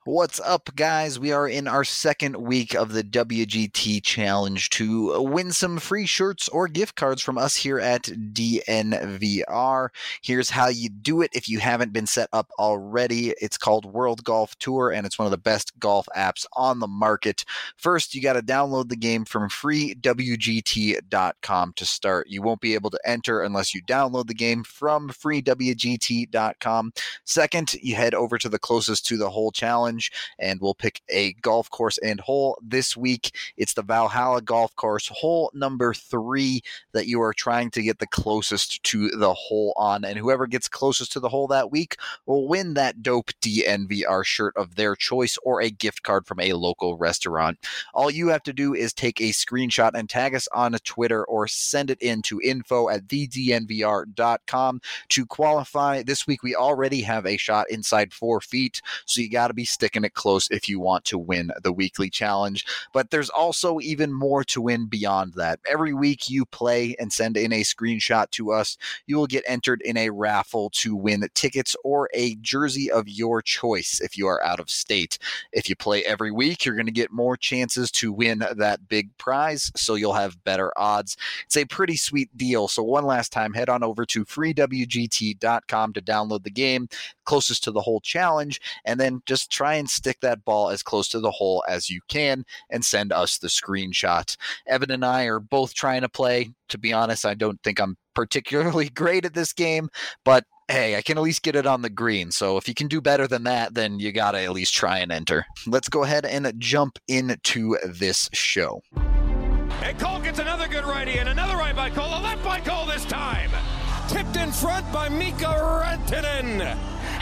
What's up, guys? We are in our second week of the WGT Challenge to win some free shirts or gift cards from us here at DNVR. Here's how you do it if you haven't been set up already. It's called World Golf Tour, and it's one of the best golf apps on the market. First, you got to download the game from freewgt.com to start. You won't be able to enter unless you download the game from freewgt.com. Second, you head over to the closest to the hole challenge, and we'll pick a golf course and hole. This week, it's the Valhalla Golf Course, hole number 3 that you are trying to get the closest to the hole on, and whoever gets closest to the hole that week will win that dope DNVR shirt of their choice or a gift card from a local restaurant. All you have to do is take a screenshot and tag us on Twitter or send it in to info@thednvr.com to qualify. This week, we already have a shot inside 4 feet, so you got to be sticking it close if you want to win the weekly challenge. But there's also even more to win beyond that. Every week you play and send in a screenshot to us, you will get entered in a raffle to win tickets or a jersey of your choice if you are out of state. If you play every week, you're going to get more chances to win that big prize, so you'll have better odds. It's a pretty sweet deal. So one last time, head on over to freewgt.com to download the game closest to the hole challenge, and then just try and stick that ball as close to the hole as you can and send us the screenshot. Evan and I are both trying to play. To be honest, I don't think I'm particularly great at this game, but hey, I can at least get it on the green. So if you can do better than that, then you got to at least try and enter. Let's go ahead and jump into this show. And Cole gets another good righty, and another right by Cole, a left by Cole this time. Tipped in front by Mika Rantanen.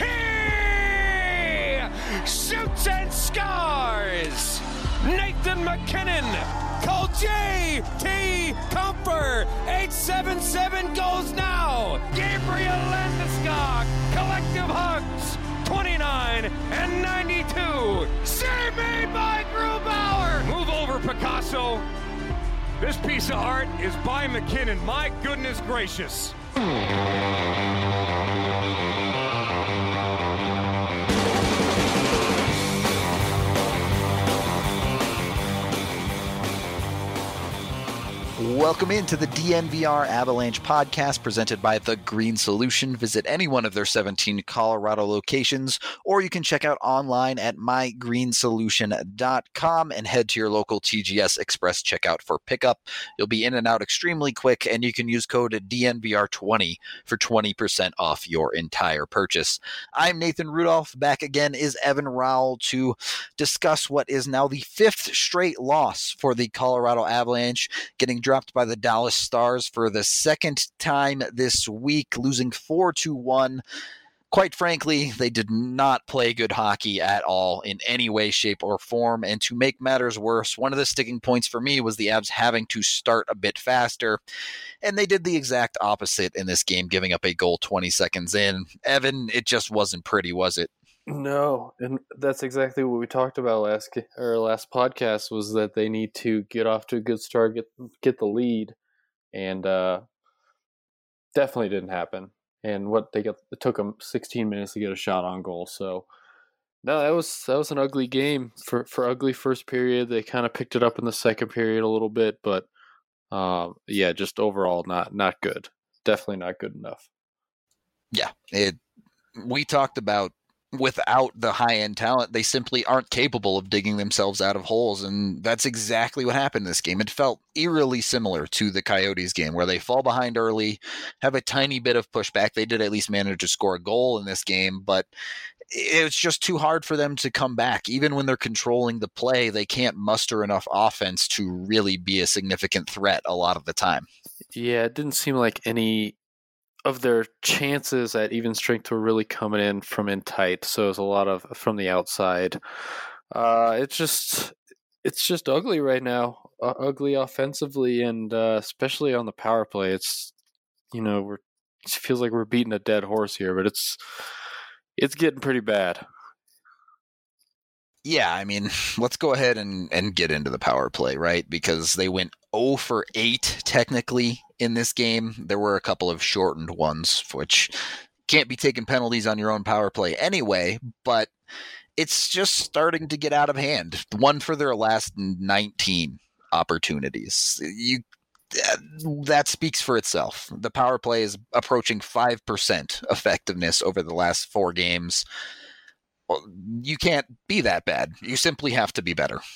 He shoots and scores. Nathan MacKinnon. Cole J.T. Comfer. 877 goes now. Gabriel Landeskog. Collective hugs. 29 and 92. Save made by Grubauer. Move over, Picasso. This piece of art is by McKinnon. My goodness gracious. Welcome into the DNVR Avalanche podcast presented by The Green Solution. Visit any one of their 17 Colorado locations, or you can check out online at mygreensolution.com and head to your local TGS Express checkout for pickup. You'll be in and out extremely quick, and you can use code DNVR20 for 20% off your entire purchase. I'm Nathan Rudolph. Back again is Evan Rowell to discuss what is now the 5th straight loss for the Colorado Avalanche, getting dropped by the Dallas Stars for the second time this week, losing 4-1. Quite frankly, they did not play good hockey at all in any way, shape, or form. And to make matters worse, one of the sticking points for me was the Avs having to start a bit faster. And they did the exact opposite in this game, giving up a goal 20 seconds in. Evan, it just wasn't pretty, was it? No, and that's exactly what we talked about last podcast, was that they need to get off to a good start, get the lead, and definitely didn't happen. And it took them 16 minutes to get a shot on goal. So no, that was an ugly game for ugly first period. They kind of picked it up in the second period a little bit, but yeah, just overall not good. Definitely not good enough. Yeah, we talked about, without the high-end talent, they simply aren't capable of digging themselves out of holes, and that's exactly what happened in this game. It felt eerily similar to the Coyotes game, where they fall behind early, have a tiny bit of pushback. They did at least manage to score a goal in this game, but it's just too hard for them to come back. Even when they're controlling the play, they can't muster enough offense to really be a significant threat a lot of the time. Yeah, it didn't seem like any of their chances at even strength were really coming in from in tight, so it was a lot of from the outside. It's just ugly right now, ugly offensively, and especially on the power play. It feels like we're beating a dead horse here, but it's getting pretty bad. Yeah, I mean, let's go ahead and get into the power play, right? Because they went 0 for 8 technically in this game. There were a couple of shortened ones, which can't be taking penalties on your own power play anyway, but it's just starting to get out of hand. One for their last 19 opportunities. That speaks for itself. The power play is approaching 5% effectiveness over the last 4 games. You can't be that bad. You simply have to be better.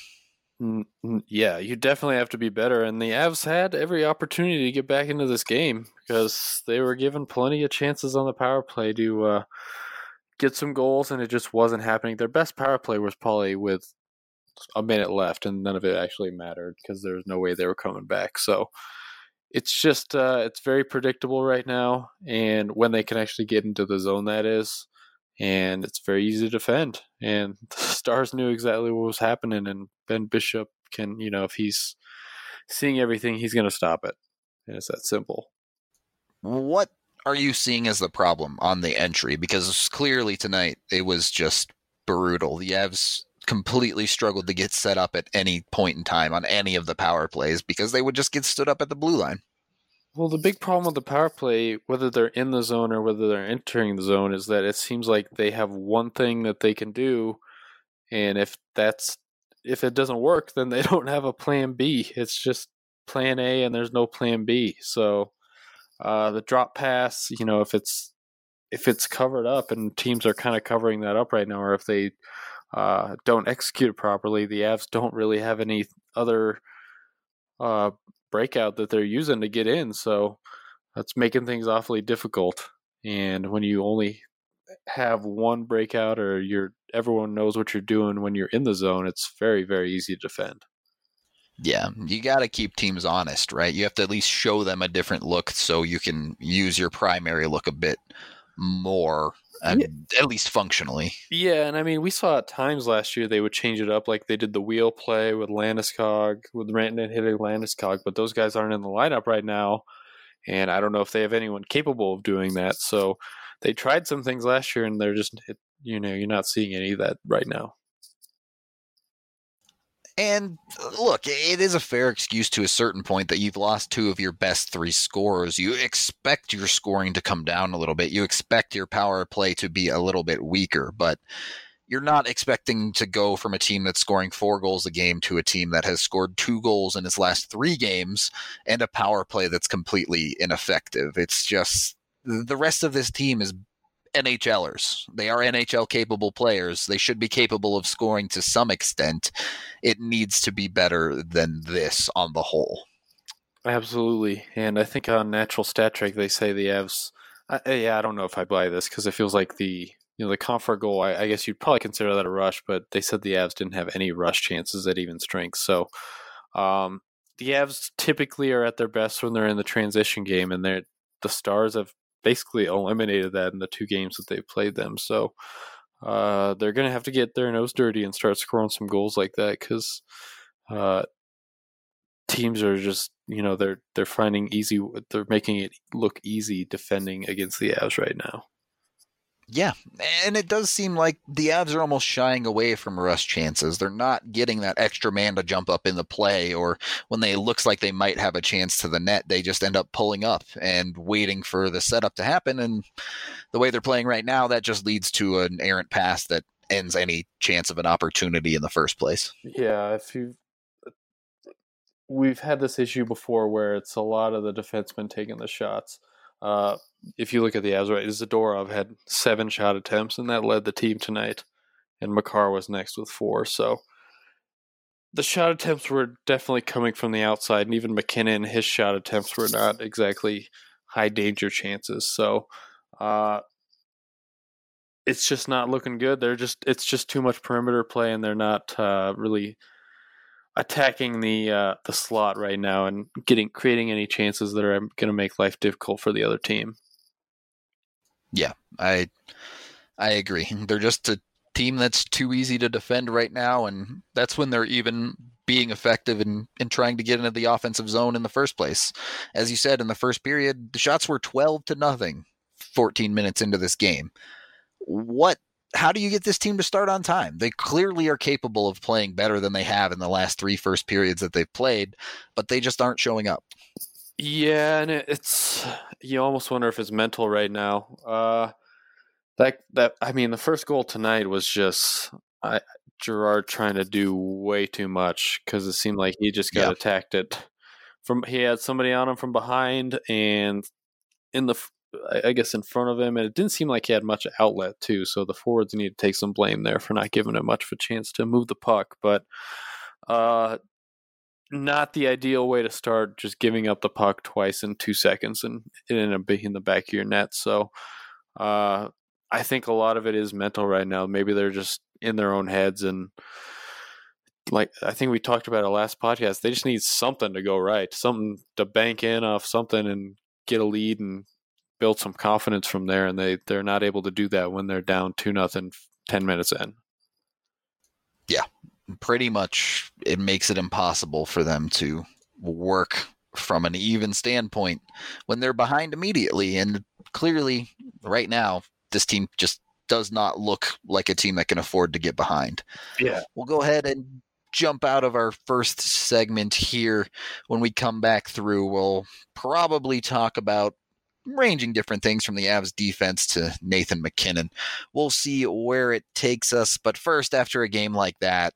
Yeah, you definitely have to be better. And the Avs had every opportunity to get back into this game because they were given plenty of chances on the power play to get some goals, and it just wasn't happening. Their best power play was probably with a minute left, and none of it actually mattered because there was no way they were coming back. So it's just it's very predictable right now, and when they can actually get into the zone, that is. And it's very easy to defend. And the Stars knew exactly what was happening. And Ben Bishop can, if he's seeing everything, he's going to stop it. And it's that simple. What are you seeing as the problem on the entry? Because clearly tonight it was just brutal. The Avs completely struggled to get set up at any point in time on any of the power plays because they would just get stood up at the blue line. Well, the big problem with the power play, whether they're in the zone or whether they're entering the zone, is that it seems like they have one thing that they can do, and if it doesn't work, then they don't have a plan B. It's just plan A, and there's no plan B. So the drop pass, if it's covered up, and teams are kind of covering that up right now, or if they don't execute it properly, the Avs don't really have any other breakout that they're using to get in, so that's making things awfully difficult. And when you only have one breakout, or everyone knows what you're doing when you're in the zone, it's very, very easy to defend. Yeah, you got to keep teams honest, right? You have to at least show them a different look so you can use your primary look a bit more, at least functionally. Yeah, and I mean, we saw at times last year they would change it up, like they did the wheel play with Landeskog, with Rantanen hitting Landeskog, but those guys aren't in the lineup right now, and I don't know if they have anyone capable of doing that. So they tried some things last year, and they're just, you're not seeing any of that right now. And look, it is a fair excuse to a certain point that you've lost 2 of your best 3 scorers. You expect your scoring to come down a little bit. You expect your power play to be a little bit weaker, but you're not expecting to go from a team that's scoring 4 goals a game to a team that has scored 2 goals in its last 3 games and a power play that's completely ineffective. It's just the rest of this team is NHLers. They are NHL capable players. They should be capable of scoring to some extent. It needs to be better than this on the whole. Absolutely. And I think on Natural Stat Trick they say the Avs, I don't know if I buy this because it feels like the Compher goal, I guess you'd probably consider that a rush, but they said the Avs didn't have any rush chances at even strength. So the Avs typically are at their best when they're in the transition game, and the Stars have basically eliminated that in the 2 games that they've played them. So they're going to have to get their nose dirty and start scoring some goals like that, because teams are just, they're finding they're making it look easy defending against the Avs right now. Yeah, and it does seem like the Avs are almost shying away from rush chances. They're not getting that extra man to jump up in the play, or when they looks like they might have a chance to the net, they just end up pulling up and waiting for the setup to happen. And the way they're playing right now, that just leads to an errant pass that ends any chance of an opportunity in the first place. Yeah, we've had this issue before where it's a lot of the defensemen taking the shots. If you look at the Avs, right, Zadorov had 7 shot attempts, and that led the team tonight. And Makar was next with 4. So the shot attempts were definitely coming from the outside, and even McKinnon, his shot attempts were not exactly high danger chances. So it's just not looking good. It's just too much perimeter play, and they're not really attacking the slot right now and creating any chances that are going to make life difficult for the other team. Yeah, I agree. They're just a team that's too easy to defend right now, and that's when they're even being effective in trying to get into the offensive zone in the first place. As you said, in the first period, the shots were 12-0, 14 minutes into this game. How do you get this team to start on time? They clearly are capable of playing better than they have in the last 3 first periods that they've played, but they just aren't showing up. Yeah, and it's, you almost wonder if it's mental right now. The first goal tonight was just Gerard trying to do way too much because it seemed like he just got attacked he had somebody on him from behind and I guess in front of him, and it didn't seem like he had much outlet too. So the forwards need to take some blame there for not giving him much of a chance to move the puck. But not the ideal way to start, just giving up the puck twice in 2 seconds and it ended up being in the back of your net. So I think a lot of it is mental right now. Maybe they're just in their own heads, and like I think we talked about it last podcast, they just need something to go right, something to bank in off something and get a lead and build some confidence from there, and they're not able to do that when they're down 2-0 10 minutes in. Yeah, pretty much it makes it impossible for them to work from an even standpoint when they're behind immediately. And clearly right now, this team just does not look like a team that can afford to get behind. Yeah. We'll go ahead and jump out of our first segment here. When we come back through, we'll probably talk about ranging different things from the Avs defense to Nathan MacKinnon. We'll see where it takes us. But first, after a game like that,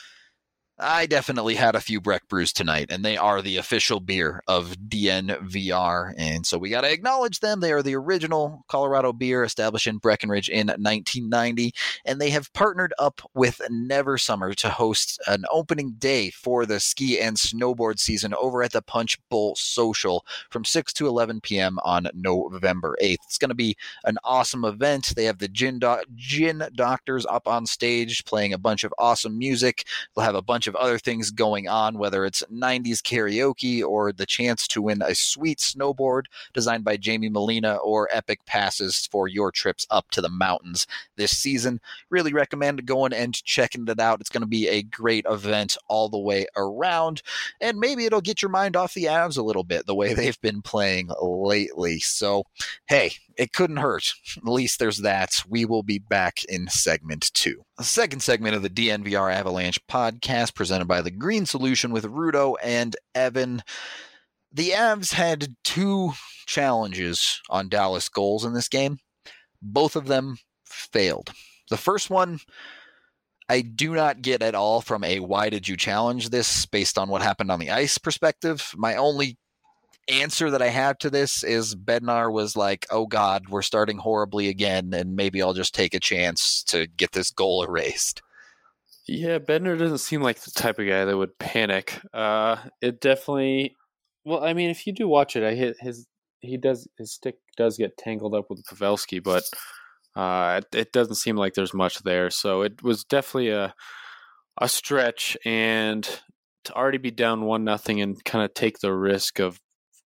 I definitely had a few Breck Brews tonight, and they are the official beer of DNVR, and so we got to acknowledge them. They are the original Colorado beer established in Breckenridge in 1990, and they have partnered up with Never Summer to host an opening day for the ski and snowboard season over at the Punch Bowl Social from 6 to 11 p.m. on November 8th. It's going to be an awesome event. They have the Gin Doctors up on stage playing a bunch of awesome music. They'll have a bunch of other things going on, whether it's 90s karaoke or the chance to win a sweet snowboard designed by Jamie Molina or epic passes for your trips up to the mountains this season. Really recommend going and checking it out. It's going to be a great event all the way around, and maybe it'll get your mind off the Avs a little bit the way they've been playing lately. So, hey, it couldn't hurt. At least there's that. We will be back in segment 2. The second segment of the DNVR Avalanche podcast presented by The Green Solution with Rudo and Evan. The Avs had 2 challenges on Dallas goals in this game. Both of them failed. The first one, I do not get at all from a why did you challenge this based on what happened on the ice perspective. My only answer that I have to this is Bednar was like, oh God, we're starting horribly again, and maybe I'll just take a chance to get this goal erased. Yeah, Bednar doesn't seem like the type of guy that would panic. It definitely, well, I mean, if you do watch it, his stick does get tangled up with Pavelski, but it doesn't seem like there's much there. So it was definitely a stretch, and to already be down 1-0 and kind of take the risk of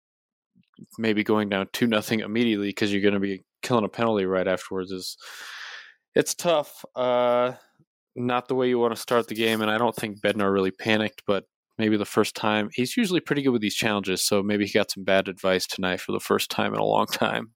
maybe going down 2-0 immediately because you're going to be killing a penalty right afterwards it's tough. Not the way you want to start the game, and I don't think Bednar really panicked, but maybe the first time. He's usually pretty good with these challenges, so maybe he got some bad advice tonight for the first time in a long time.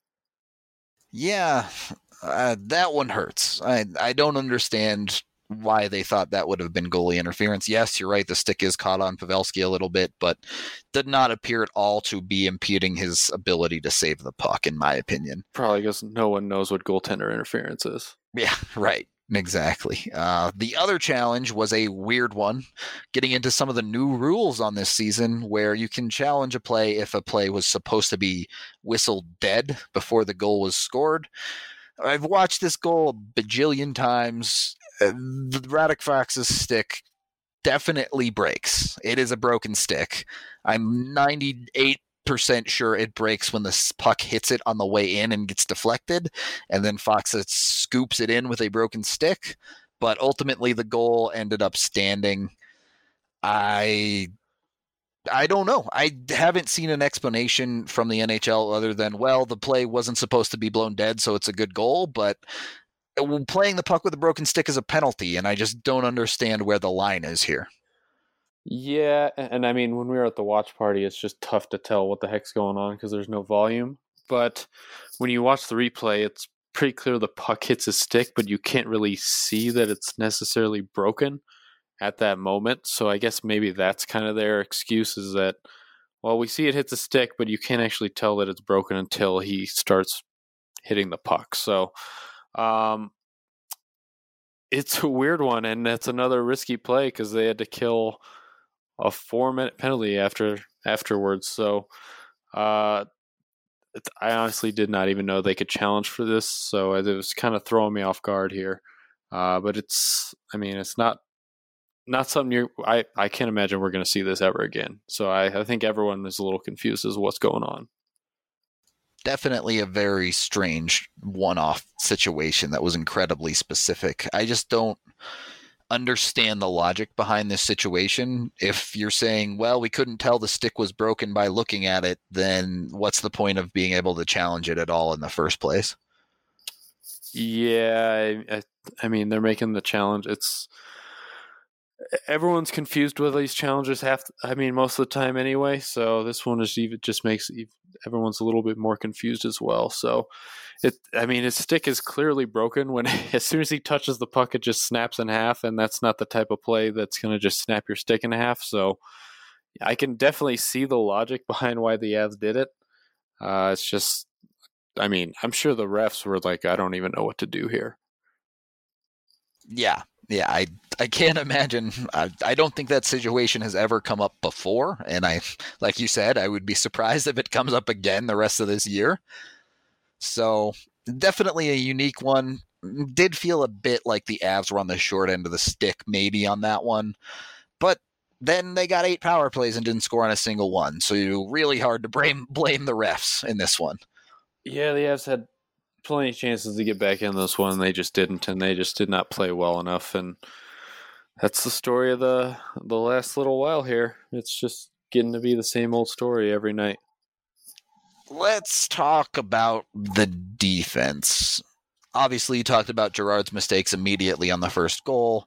Yeah, that one hurts. I don't understand why they thought that would have been goalie interference. Yes, you're right. The stick is caught on Pavelski a little bit, but did not appear at all to be impeding his ability to save the puck, in my opinion. Probably because no one knows what goaltender interference is. Yeah, right. Exactly. The other challenge was a weird one, getting into some of the new rules on this season where you can challenge a play if a play was supposed to be whistled dead before the goal was scored. I've watched this goal a bajillion times. The Radek Fox's stick definitely breaks. It is a broken stick. I'm 98% sure it breaks when the puck hits it on the way in and gets deflected, and then Fox scoops it in with a broken stick. But ultimately, the goal ended up standing. I don't know. I haven't seen an explanation from the NHL other than, well, the play wasn't supposed to be blown dead, so it's a good goal, but playing the puck with a broken stick is a penalty, and I just don't understand where the line is here. Yeah, and I mean, when we were at the watch party, it's just tough to tell what the heck's going on because there's no volume. But when you watch the replay, it's pretty clear the puck hits his stick, but you can't really see that it's necessarily broken at that moment. So I guess maybe that's kind of their excuse, is that, well, we see it hits a stick, but you can't actually tell that it's broken until he starts hitting the puck. So it's a weird one, and that's another risky play because they had to kill a 4-minute penalty afterwards. So I honestly did not even know they could challenge for this, so it was kind of throwing me off guard here. But it's not something I can't imagine we're going to see this ever again. So I think everyone is a little confused as to what's going on. Definitely a very strange one-off situation that was incredibly specific. I just don't understand the logic behind this situation. If you're saying, well, we couldn't tell the stick was broken by looking at it, then what's the point of being able to challenge it at all in the first place? Yeah, I mean, they're making the challenge. Everyone's confused with these challenges most of the time anyway. So this one just makes everyone's a little bit more confused as well. So his stick is clearly broken when as soon as he touches the puck, it just snaps in half, and that's not the type of play that's going to just snap your stick in half. So I can definitely see the logic behind why the Avs did it. It's just, I'm sure the refs were like, I don't even know what to do here. Yeah, I can't imagine. I don't think that situation has ever come up before, and like you said, I would be surprised if it comes up again the rest of this year. So definitely a unique one. Did feel a bit like the Avs were on the short end of the stick maybe on that one, but then they got 8 power plays and didn't score on a single one, so you're really hard to blame the refs in this one. Yeah, the Avs had plenty of chances to get back in this one. They just didn't, and they just did not play well enough. And that's the story of the last little while here. It's just getting to be the same old story every night. Let's talk about the defense. Obviously, you talked about Girard's mistakes immediately on the first goal.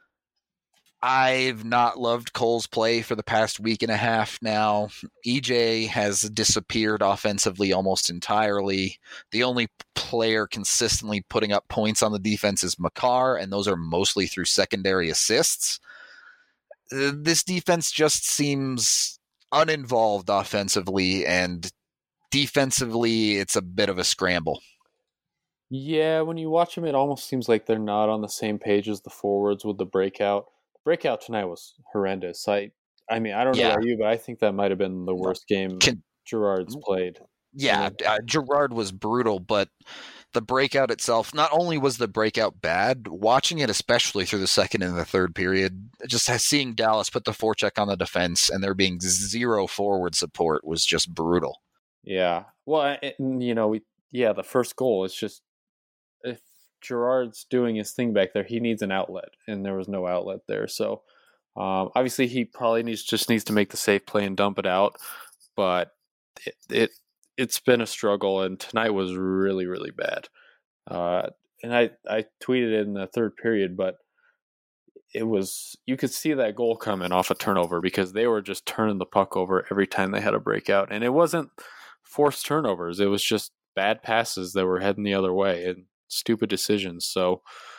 I've not loved Cole's play for the past week and a half now. EJ has disappeared offensively almost entirely. The only player consistently putting up points on the defense is Makar, and those are mostly through secondary assists. This defense just seems uninvolved offensively, and defensively, it's a bit of a scramble. Yeah, when you watch them, it almost seems like they're not on the same page as the forwards with the breakout. Breakout tonight was horrendous. I don't know about you, but I think that might have been the worst game Girard's played. Yeah, Girard was brutal, but the breakout itself, not only was the breakout bad, watching it especially through the second and the third period, just seeing Dallas put the forecheck on the defense and there being zero forward support was just brutal. Yeah. Well, the first goal, it's just, if Girard's doing his thing back there, he needs an outlet, and there was no outlet there. So obviously he probably needs to make the safe play and dump it out, but it's been a struggle, and tonight was really, really bad. And I tweeted it in the third period, but you could see that goal coming off a turnover because they were just turning the puck over every time they had a breakout, and it wasn't forced turnovers. It was just bad passes that were heading the other way and stupid decisions. So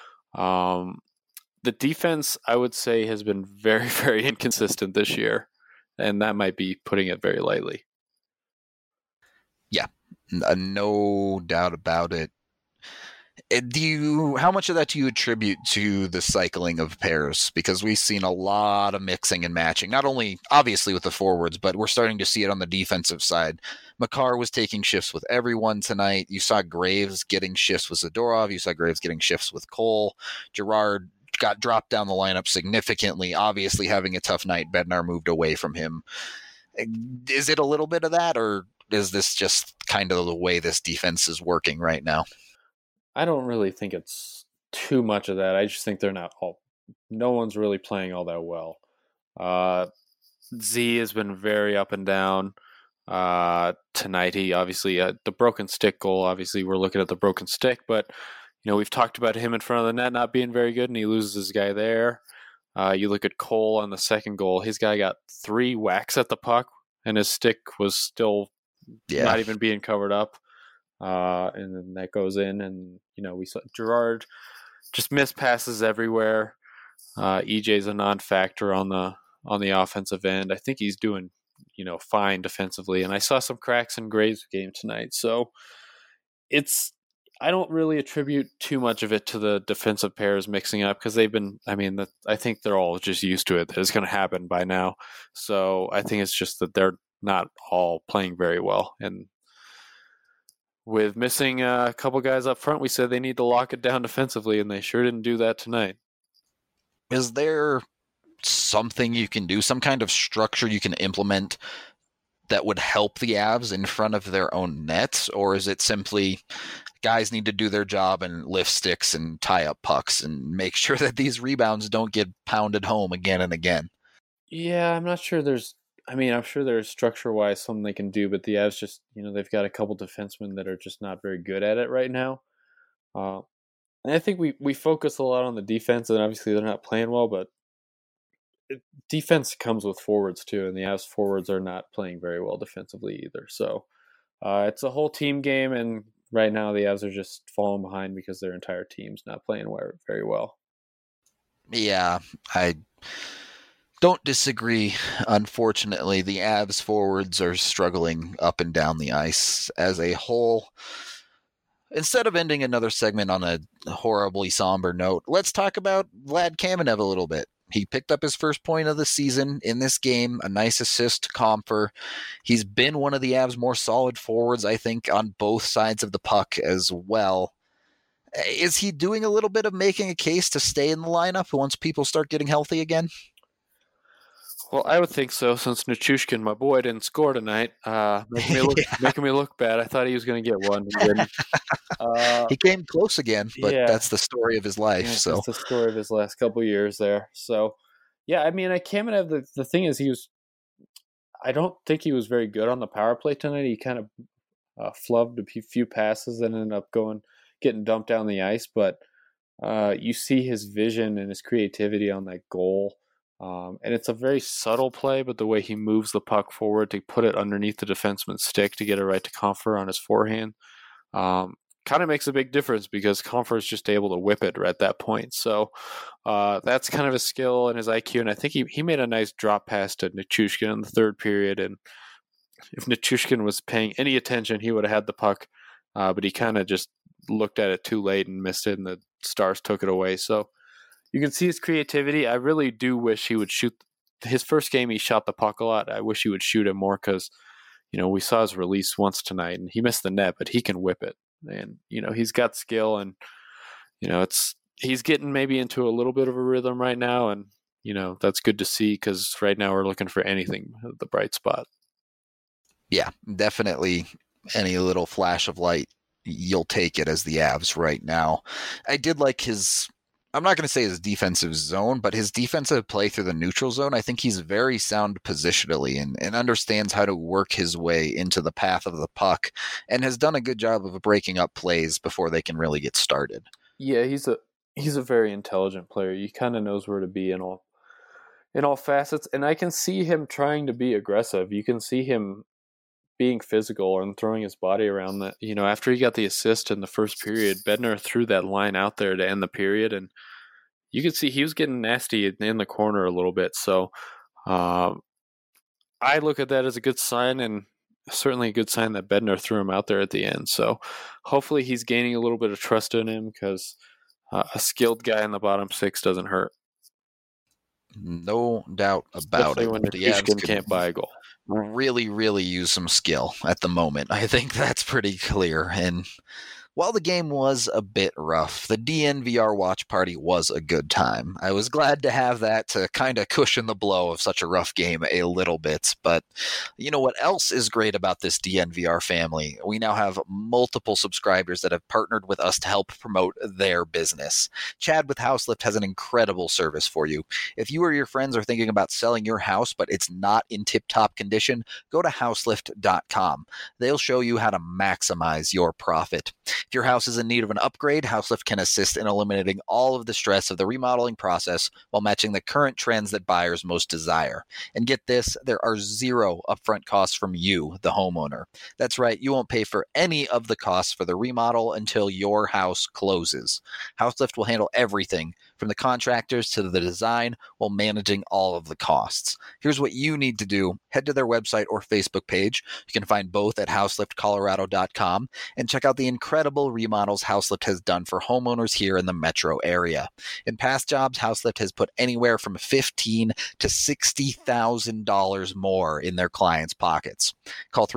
the defense, I would say, has been very, very inconsistent this year, and that might be putting it very lightly. Yeah, no doubt about it. How much of that do you attribute to the cycling of pairs? Because we've seen a lot of mixing and matching, not only obviously with the forwards, but we're starting to see it on the defensive side. Makar was taking shifts with everyone tonight. You saw Graves getting shifts with Zadorov. You saw Graves getting shifts with Cole. Girard got dropped down the lineup significantly, obviously having a tough night. Bednar moved away from him. Is it a little bit of that, or is this just kind of the way this defense is working right now? I don't really think it's too much of that. I just think no one's really playing all that well. Z has been very up and down. Tonight, he obviously, the broken stick goal, obviously we're looking at the broken stick, but we've talked about him in front of the net not being very good, and he loses his guy there. You look at Cole on the second goal, his guy got 3 whacks at the puck, and his stick was still not even being covered up. And then that goes in, and we saw Girard just missed passes everywhere. EJ's a non-factor on the offensive end. I think he's doing fine defensively, and I saw some cracks in Graves' game tonight. So it's I don't really attribute too much of it to the defensive pairs mixing up because they've been, I think they're all just used to it. That it's going to happen by now. So I think it's just that they're not all playing very well. And with missing a couple guys up front, we said they need to lock it down defensively, and they sure didn't do that tonight. Is there something you can do, some kind of structure you can implement that would help the Avs in front of their own nets? Or is it simply guys need to do their job and lift sticks and tie up pucks and make sure that these rebounds don't get pounded home again and again? Yeah, I'm not sure I'm sure there's structure-wise something they can do, but the Avs just, they've got a couple defensemen that are just not very good at it right now. And I think we focus a lot on the defense, and obviously they're not playing well, but defense comes with forwards too, and the Avs forwards are not playing very well defensively either. So it's a whole team game, and right now the Avs are just falling behind because their entire team's not playing very well. Yeah, I don't disagree. Unfortunately, the Avs forwards are struggling up and down the ice as a whole. Instead of ending another segment on a horribly somber note, let's talk about Vlad Kamenev a little bit. He picked up his first point of the season in this game, a nice assist to Compher. He's been one of the Avs' more solid forwards, I think, on both sides of the puck as well. Is he doing a little bit of making a case to stay in the lineup once people start getting healthy again? Well, I would think so, since Nichushkin, my boy, didn't score tonight, making me look bad. I thought he was going to get one. He didn't. He came close again, but that's the story of his life. So that's the story of his last couple of years there. So, yeah, Kamenev, the thing is, I don't think he was very good on the power play tonight. He kind of flubbed a few passes and ended up getting dumped down the ice. But you see his vision and his creativity on that goal. And it's a very subtle play, but the way he moves the puck forward to put it underneath the defenseman's stick to get it right to Compher on his forehand kind of makes a big difference, because Compher is just able to whip it right at that point. So that's kind of a skill and his IQ, and I think he made a nice drop pass to Nichushkin in the third period, and if Nichushkin was paying any attention, he would have had the puck, but he kind of just looked at it too late and missed it, and the Stars took it away. So you can see his creativity. I really do wish he would shoot. His first game, he shot the puck a lot. I wish he would shoot it more, because, we saw his release once tonight, and he missed the net, but he can whip it. And, he's got skill, and, he's getting maybe into a little bit of a rhythm right now. And, that's good to see, because right now we're looking for anything, the bright spot. Yeah, definitely any little flash of light, you'll take it as the Avs right now. I did like I'm not going to say his defensive zone, but his defensive play through the neutral zone. I think he's very sound positionally and understands how to work his way into the path of the puck, and has done a good job of breaking up plays before they can really get started. Yeah, he's a very intelligent player. He kind of knows where to be in all facets, and I can see him trying to be aggressive. You can see him being physical and throwing his body around. That, after he got the assist in the first period, Bednar threw that line out there to end the period, and you could see he was getting nasty in the corner a little bit. So I look at that as a good sign, and certainly a good sign that Bednar threw him out there at the end. So hopefully he's gaining a little bit of trust in him, because a skilled guy in the bottom six doesn't hurt. No doubt about it. When the Avs can't buy a goal. Really, really use some skill at the moment. I think that's pretty clear. And while the game was a bit rough, the DNVR watch party was a good time. I was glad to have that to kind of cushion the blow of such a rough game a little bit. But you know what else is great about this DNVR family? We now have multiple subscribers that have partnered with us to help promote their business. Chad with Houselift has an incredible service for you. If you or your friends are thinking about selling your house, but it's not in tip-top condition, go to houselift.com. They'll show you how to maximize your profit. If your house is in need of an upgrade, Houselift can assist in eliminating all of the stress of the remodeling process while matching the current trends that buyers most desire. And get this, there are zero upfront costs from you, the homeowner. That's right, you won't pay for any of the costs for the remodel until your house closes. Houselift will handle everything from the contractors to the design, while managing all of the costs. Here's what you need to do. Head to their website or Facebook page. You can find both at houseliftcolorado.com and check out the incredible remodels Houselift has done for homeowners here in the metro area. In past jobs, Houselift has put anywhere from $15,000 to $60,000 more in their clients' pockets. Call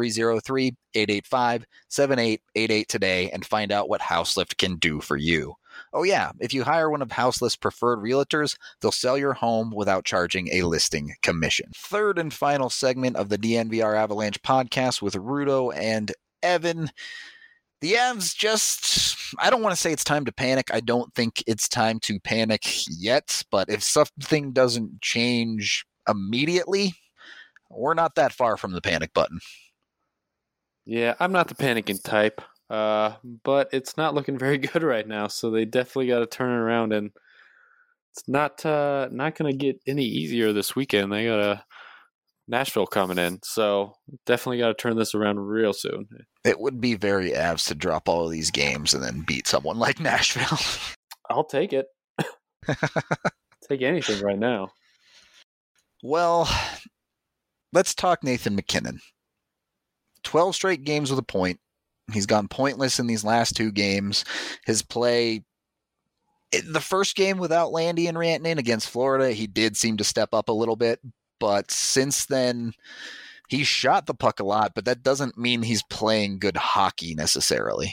303-885-7888 today and find out what Houselift can do for you. Oh yeah, if you hire one of Houselift's preferred realtors, they'll sell your home without charging a listing commission. Third and final segment of the DNVR Avalanche podcast with Rudo and Evan. The Avs just, I don't want to say it's time to panic. I don't think it's time to panic yet, but if something doesn't change immediately, we're not that far from the panic button. Yeah, I'm not the panicking type, but it's not looking very good right now, so they definitely got to turn it around, and it's not going to get any easier this weekend. They got Nashville coming in, so definitely got to turn this around real soon. It would be very Avs to drop all of these games and then beat someone like Nashville. I'll take it. Take anything right now. Well, let's talk Nathan MacKinnon. 12 straight games with a point. He's gone pointless in these last two games. His play, the first game without Landy and Rantanen against Florida, he did seem to step up a little bit. But since then, he shot the puck a lot, but that doesn't mean he's playing good hockey necessarily.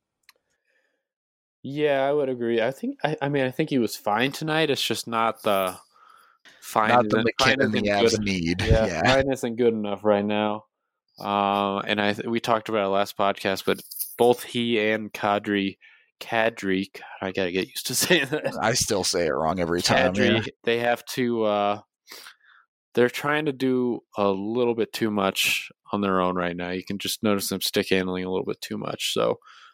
Yeah, I would agree. I think he was fine tonight. It's just not the fine. Not the MacKinnon the Avs need. Yeah, fine isn't good enough right now. And we talked about it last podcast, but both he and Kadri, I gotta get used to saying that. I still say it wrong every time. Kadri, they have to. They're trying to do a little bit too much on their own right now. You can just notice them stick handling a little bit too much. So,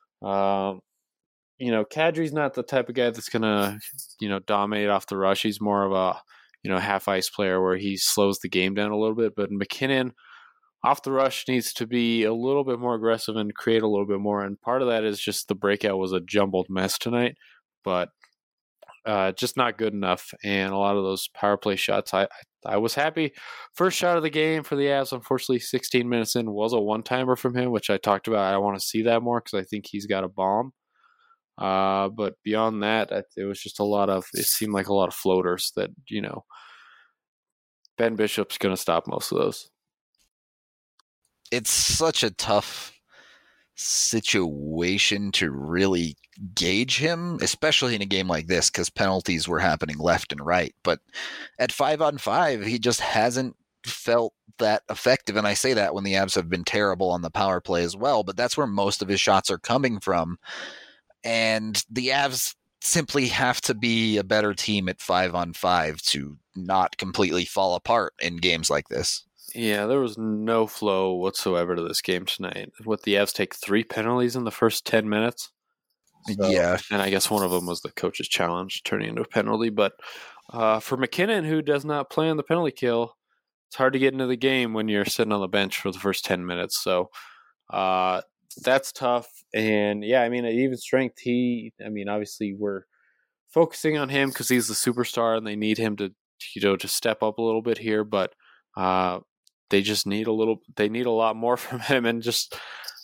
Kadri's not the type of guy that's gonna, dominate off the rush. He's more of a, half ice player where he slows the game down a little bit. But MacKinnon, off the rush, needs to be a little bit more aggressive and create a little bit more. And part of that is just the breakout was a jumbled mess tonight, but just not good enough. And a lot of those power play shots, I was happy. First shot of the game for the Avs, unfortunately, 16 minutes in, was a one-timer from him, which I talked about. I want to see that more because I think he's got a bomb. But beyond that, it was just it seemed like a lot of floaters that, Ben Bishop's going to stop most of those. It's such a tough situation to really gauge him, especially in a game like this, because penalties were happening left and right. But at 5-on-5, he just hasn't felt that effective. And I say that when the Avs have been terrible on the power play as well, but that's where most of his shots are coming from. And the Avs simply have to be a better team at 5-on-5 to not completely fall apart in games like this. Yeah, there was no flow whatsoever to this game tonight. With the Avs take 3 penalties in the first 10 minutes. So, yeah. And I guess one of them was the coach's challenge turning into a penalty. But for MacKinnon, who does not play on the penalty kill, it's hard to get into the game when you're sitting on the bench for the first 10 minutes. So that's tough. And yeah, at even strength, obviously we're focusing on him because he's the superstar and they need him to step up a little bit here. But they just need they need a lot more from him. And just,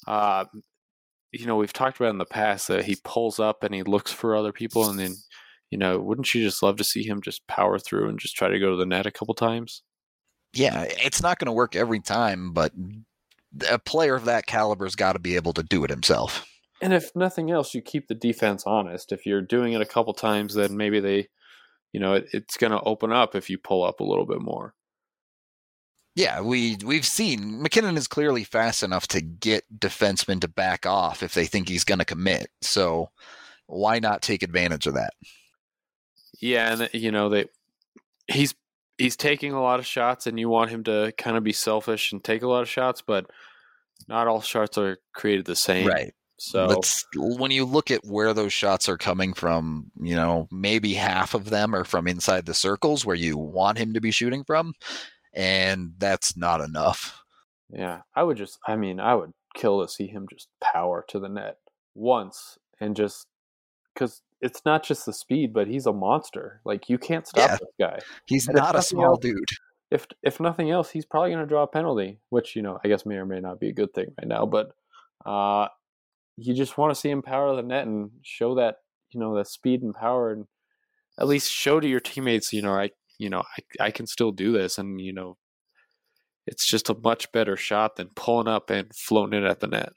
we've talked about in the past that he pulls up and he looks for other people. And then, wouldn't you just love to see him just power through and just try to go to the net a couple times? Yeah, it's not going to work every time, but a player of that caliber's got to be able to do it himself. And if nothing else, you keep the defense honest. If you're doing it a couple times, then maybe they, it's going to open up if you pull up a little bit more. Yeah, we've seen MacKinnon is clearly fast enough to get defensemen to back off if they think he's going to commit. So why not take advantage of that? Yeah, and he's taking a lot of shots, and you want him to kind of be selfish and take a lot of shots, but not all shots are created the same. Right. So when you look at where those shots are coming from, maybe half of them are from inside the circles where you want him to be shooting from. And that's not enough. Yeah, I would kill to see him just power to the net once and just because it's not just the speed, but he's a monster. Like, you can't stop this guy. He's And if not a nothing small else- dude. If nothing else, he's probably going to draw a penalty, which, I guess may or may not be a good thing right now. But you just want to see him power the net and show that, that speed and power, and at least show to your teammates, I can still do this. And, it's just a much better shot than pulling up and floating it at the net.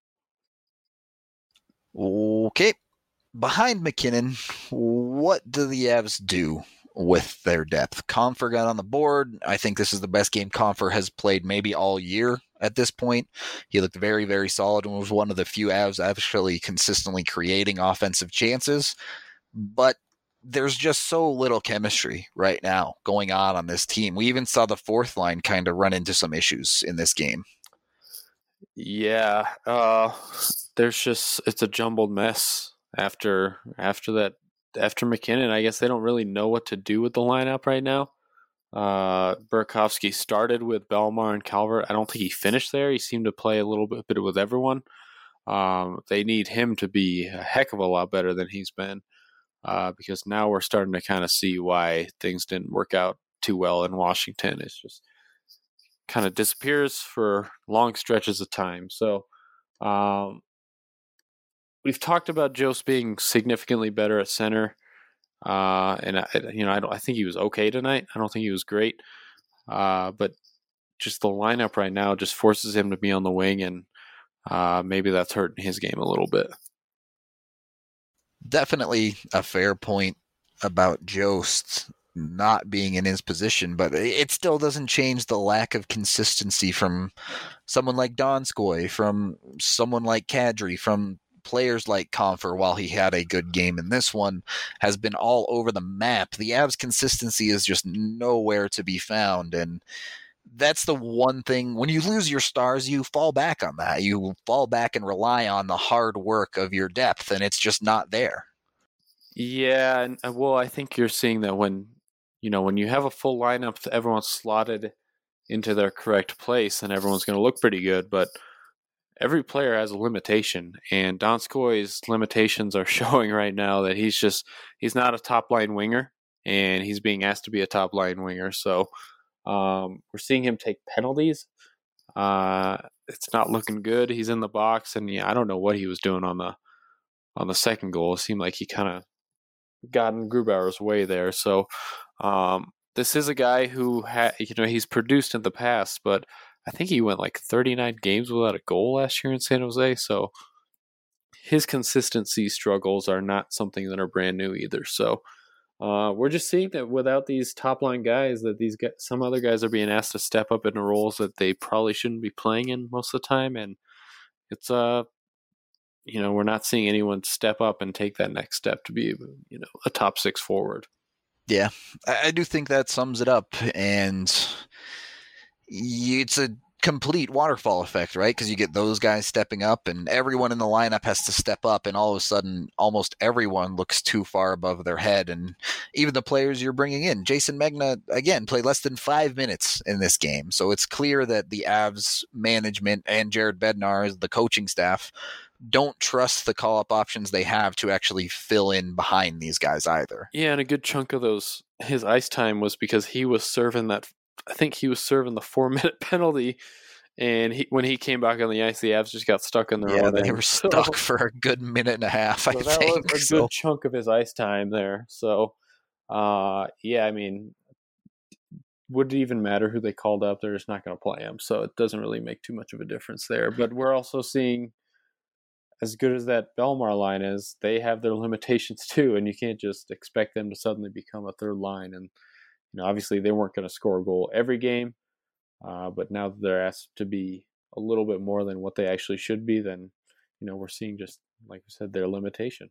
Okay. Behind MacKinnon, what do the Avs do with their depth? Compher got on the board. I think this is the best game Compher has played maybe all year at this point. He looked very, very solid and was one of the few Avs actually consistently creating offensive chances. But there's just so little chemistry right now going on this team. We even saw the fourth line kind of run into some issues in this game. Yeah, it's a jumbled mess after MacKinnon. I guess they don't really know what to do with the lineup right now. Burakovsky started with Bellemare and Calvert. I don't think he finished there. He seemed to play a little bit with everyone. They need him to be a heck of a lot better than he's been, because now we're starting to kind of see why things didn't work out too well in Washington. It's just kind of disappears for long stretches of time. So we've talked about Jost being significantly better at center, and I think he was okay tonight. I don't think he was great, but just the lineup right now just forces him to be on the wing, and maybe that's hurting his game a little bit. Definitely a fair point about Jost not being in his position, but it still doesn't change the lack of consistency from someone like Donskoy, from someone like Kadri, from players like Compher. While he had a good game in this one, has been all over the map. The Avs' consistency is just nowhere to be found, and that's the one thing. When you lose your stars, you fall back on that. You fall back and rely on the hard work of your depth, and it's just not there. Yeah, and I think you're seeing that when you have a full lineup, everyone's slotted into their correct place, and everyone's going to look pretty good. But every player has a limitation, and Donskoy's limitations are showing right now that he's not a top line winger, and he's being asked to be a top line winger. So we're seeing him take penalties. It's not looking good. He's in the box, and I don't know what he was doing on the second goal. It seemed like he kind of got in Grubauer's way there. So this is a guy who he's produced in the past, but I think he went like 39 games without a goal last year in San Jose. So his consistency struggles are not something that are brand new either. So we're just seeing that without these top line guys, that some other guys are being asked to step up into roles that they probably shouldn't be playing in most of the time, and it's we're not seeing anyone step up and take that next step to be a top six forward. Yeah, I do think that sums it up, and it's a complete waterfall effect, right? Because you get those guys stepping up, and everyone in the lineup has to step up, and all of a sudden, almost everyone looks too far above their head, and even the players you're bringing in. Jason Megna, again, played less than 5 minutes in this game, so it's clear that the Avs management and Jared Bednar, the coaching staff, don't trust the call-up options they have to actually fill in behind these guys either. Yeah, and a good chunk of his ice time was because he was serving the 4-minute penalty, and when he came back on the ice, the Avs just got stuck in their own end. They were stuck for a good minute and a half, I think. That was a good chunk of his ice time there. So, I mean, would it even matter who they called up? They're just not going to play him, so it doesn't really make too much of a difference there. But we're also seeing, as good as that Bellemare line is, they have their limitations too, and you can't just expect them to suddenly become a third line. And obviously they weren't going to score a goal every game, but now that they're asked to be a little bit more than what they actually should be, then we're seeing, just like we said, their limitation.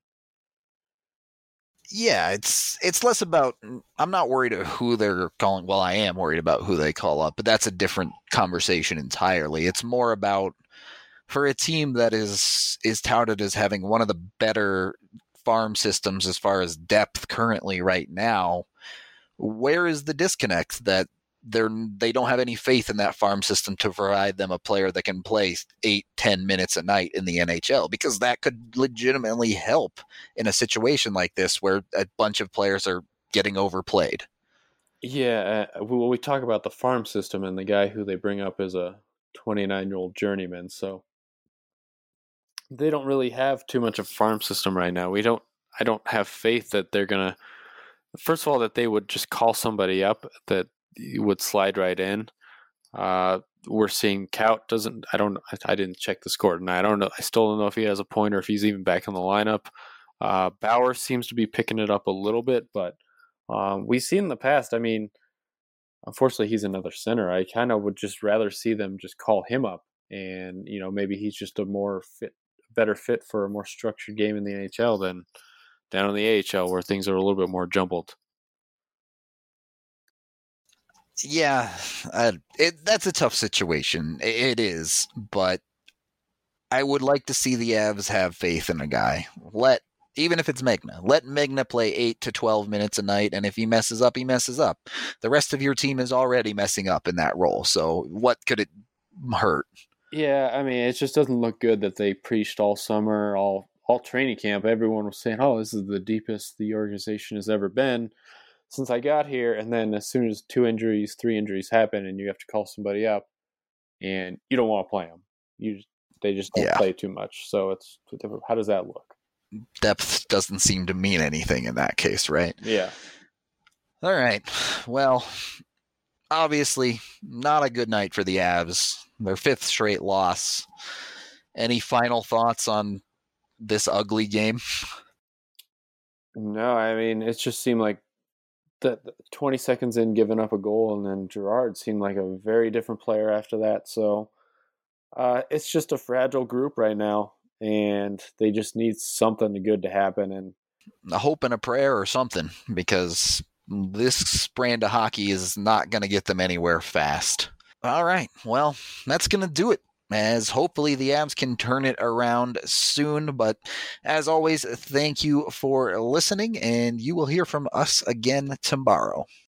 Yeah, it's less about, I'm not worried about who they're calling. Well, I am worried about who they call up, but that's a different conversation entirely. It's more about, for a team that is touted as having one of the better farm systems as far as depth currently right now, where is the disconnect that they don't have any faith in that farm system to provide them a player that can play 8-10 minutes a night in the NHL, because that could legitimately help in a situation like this where a bunch of players are getting overplayed. Yeah, we talk about the farm system, and the guy who they bring up is a 29-year-old journeyman, so they don't really have too much of a farm system right now. I don't have faith that they're gonna, first of all, that they would just call somebody up that would slide right in. We're seeing Kaut doesn't. I didn't check the score tonight. I don't know. I still don't know if he has a point or if he's even back in the lineup. Bauer seems to be picking it up a little bit, but we've seen in the past. I mean, unfortunately, he's another center. I kind of would just rather see them just call him up, and maybe he's just a better fit for a more structured game in the NHL than down in the AHL, where things are a little bit more jumbled. Yeah, that's a tough situation. It is, but I would like to see the Avs have faith in a guy. Even if it's Megna, let Megna play 8 to 12 minutes a night, and if he messes up, he messes up. The rest of your team is already messing up in that role, so what could it hurt? Yeah, I mean, it just doesn't look good that they preached all summer, all training camp. Everyone was saying, "Oh, this is the deepest the organization has ever been since I got here," and then as soon as 2 injuries, 3 injuries happen, and you have to call somebody up, and you don't want to play them, they just don't play too much. So how does that look? Depth doesn't seem to mean anything in that case, right? Yeah. All right. Well, obviously, not a good night for the Avs. Their 5th straight loss. Any final thoughts on this ugly game? No, I mean, it just seemed like that 20 seconds in giving up a goal, and then Girard seemed like a very different player after that. So it's just a fragile group right now, and they just need something good to happen. And a hope and a prayer or something, because this brand of hockey is not going to get them anywhere fast. All right. Well, that's going to do it, as hopefully the Avs can turn it around soon. But as always, thank you for listening, and you will hear from us again tomorrow.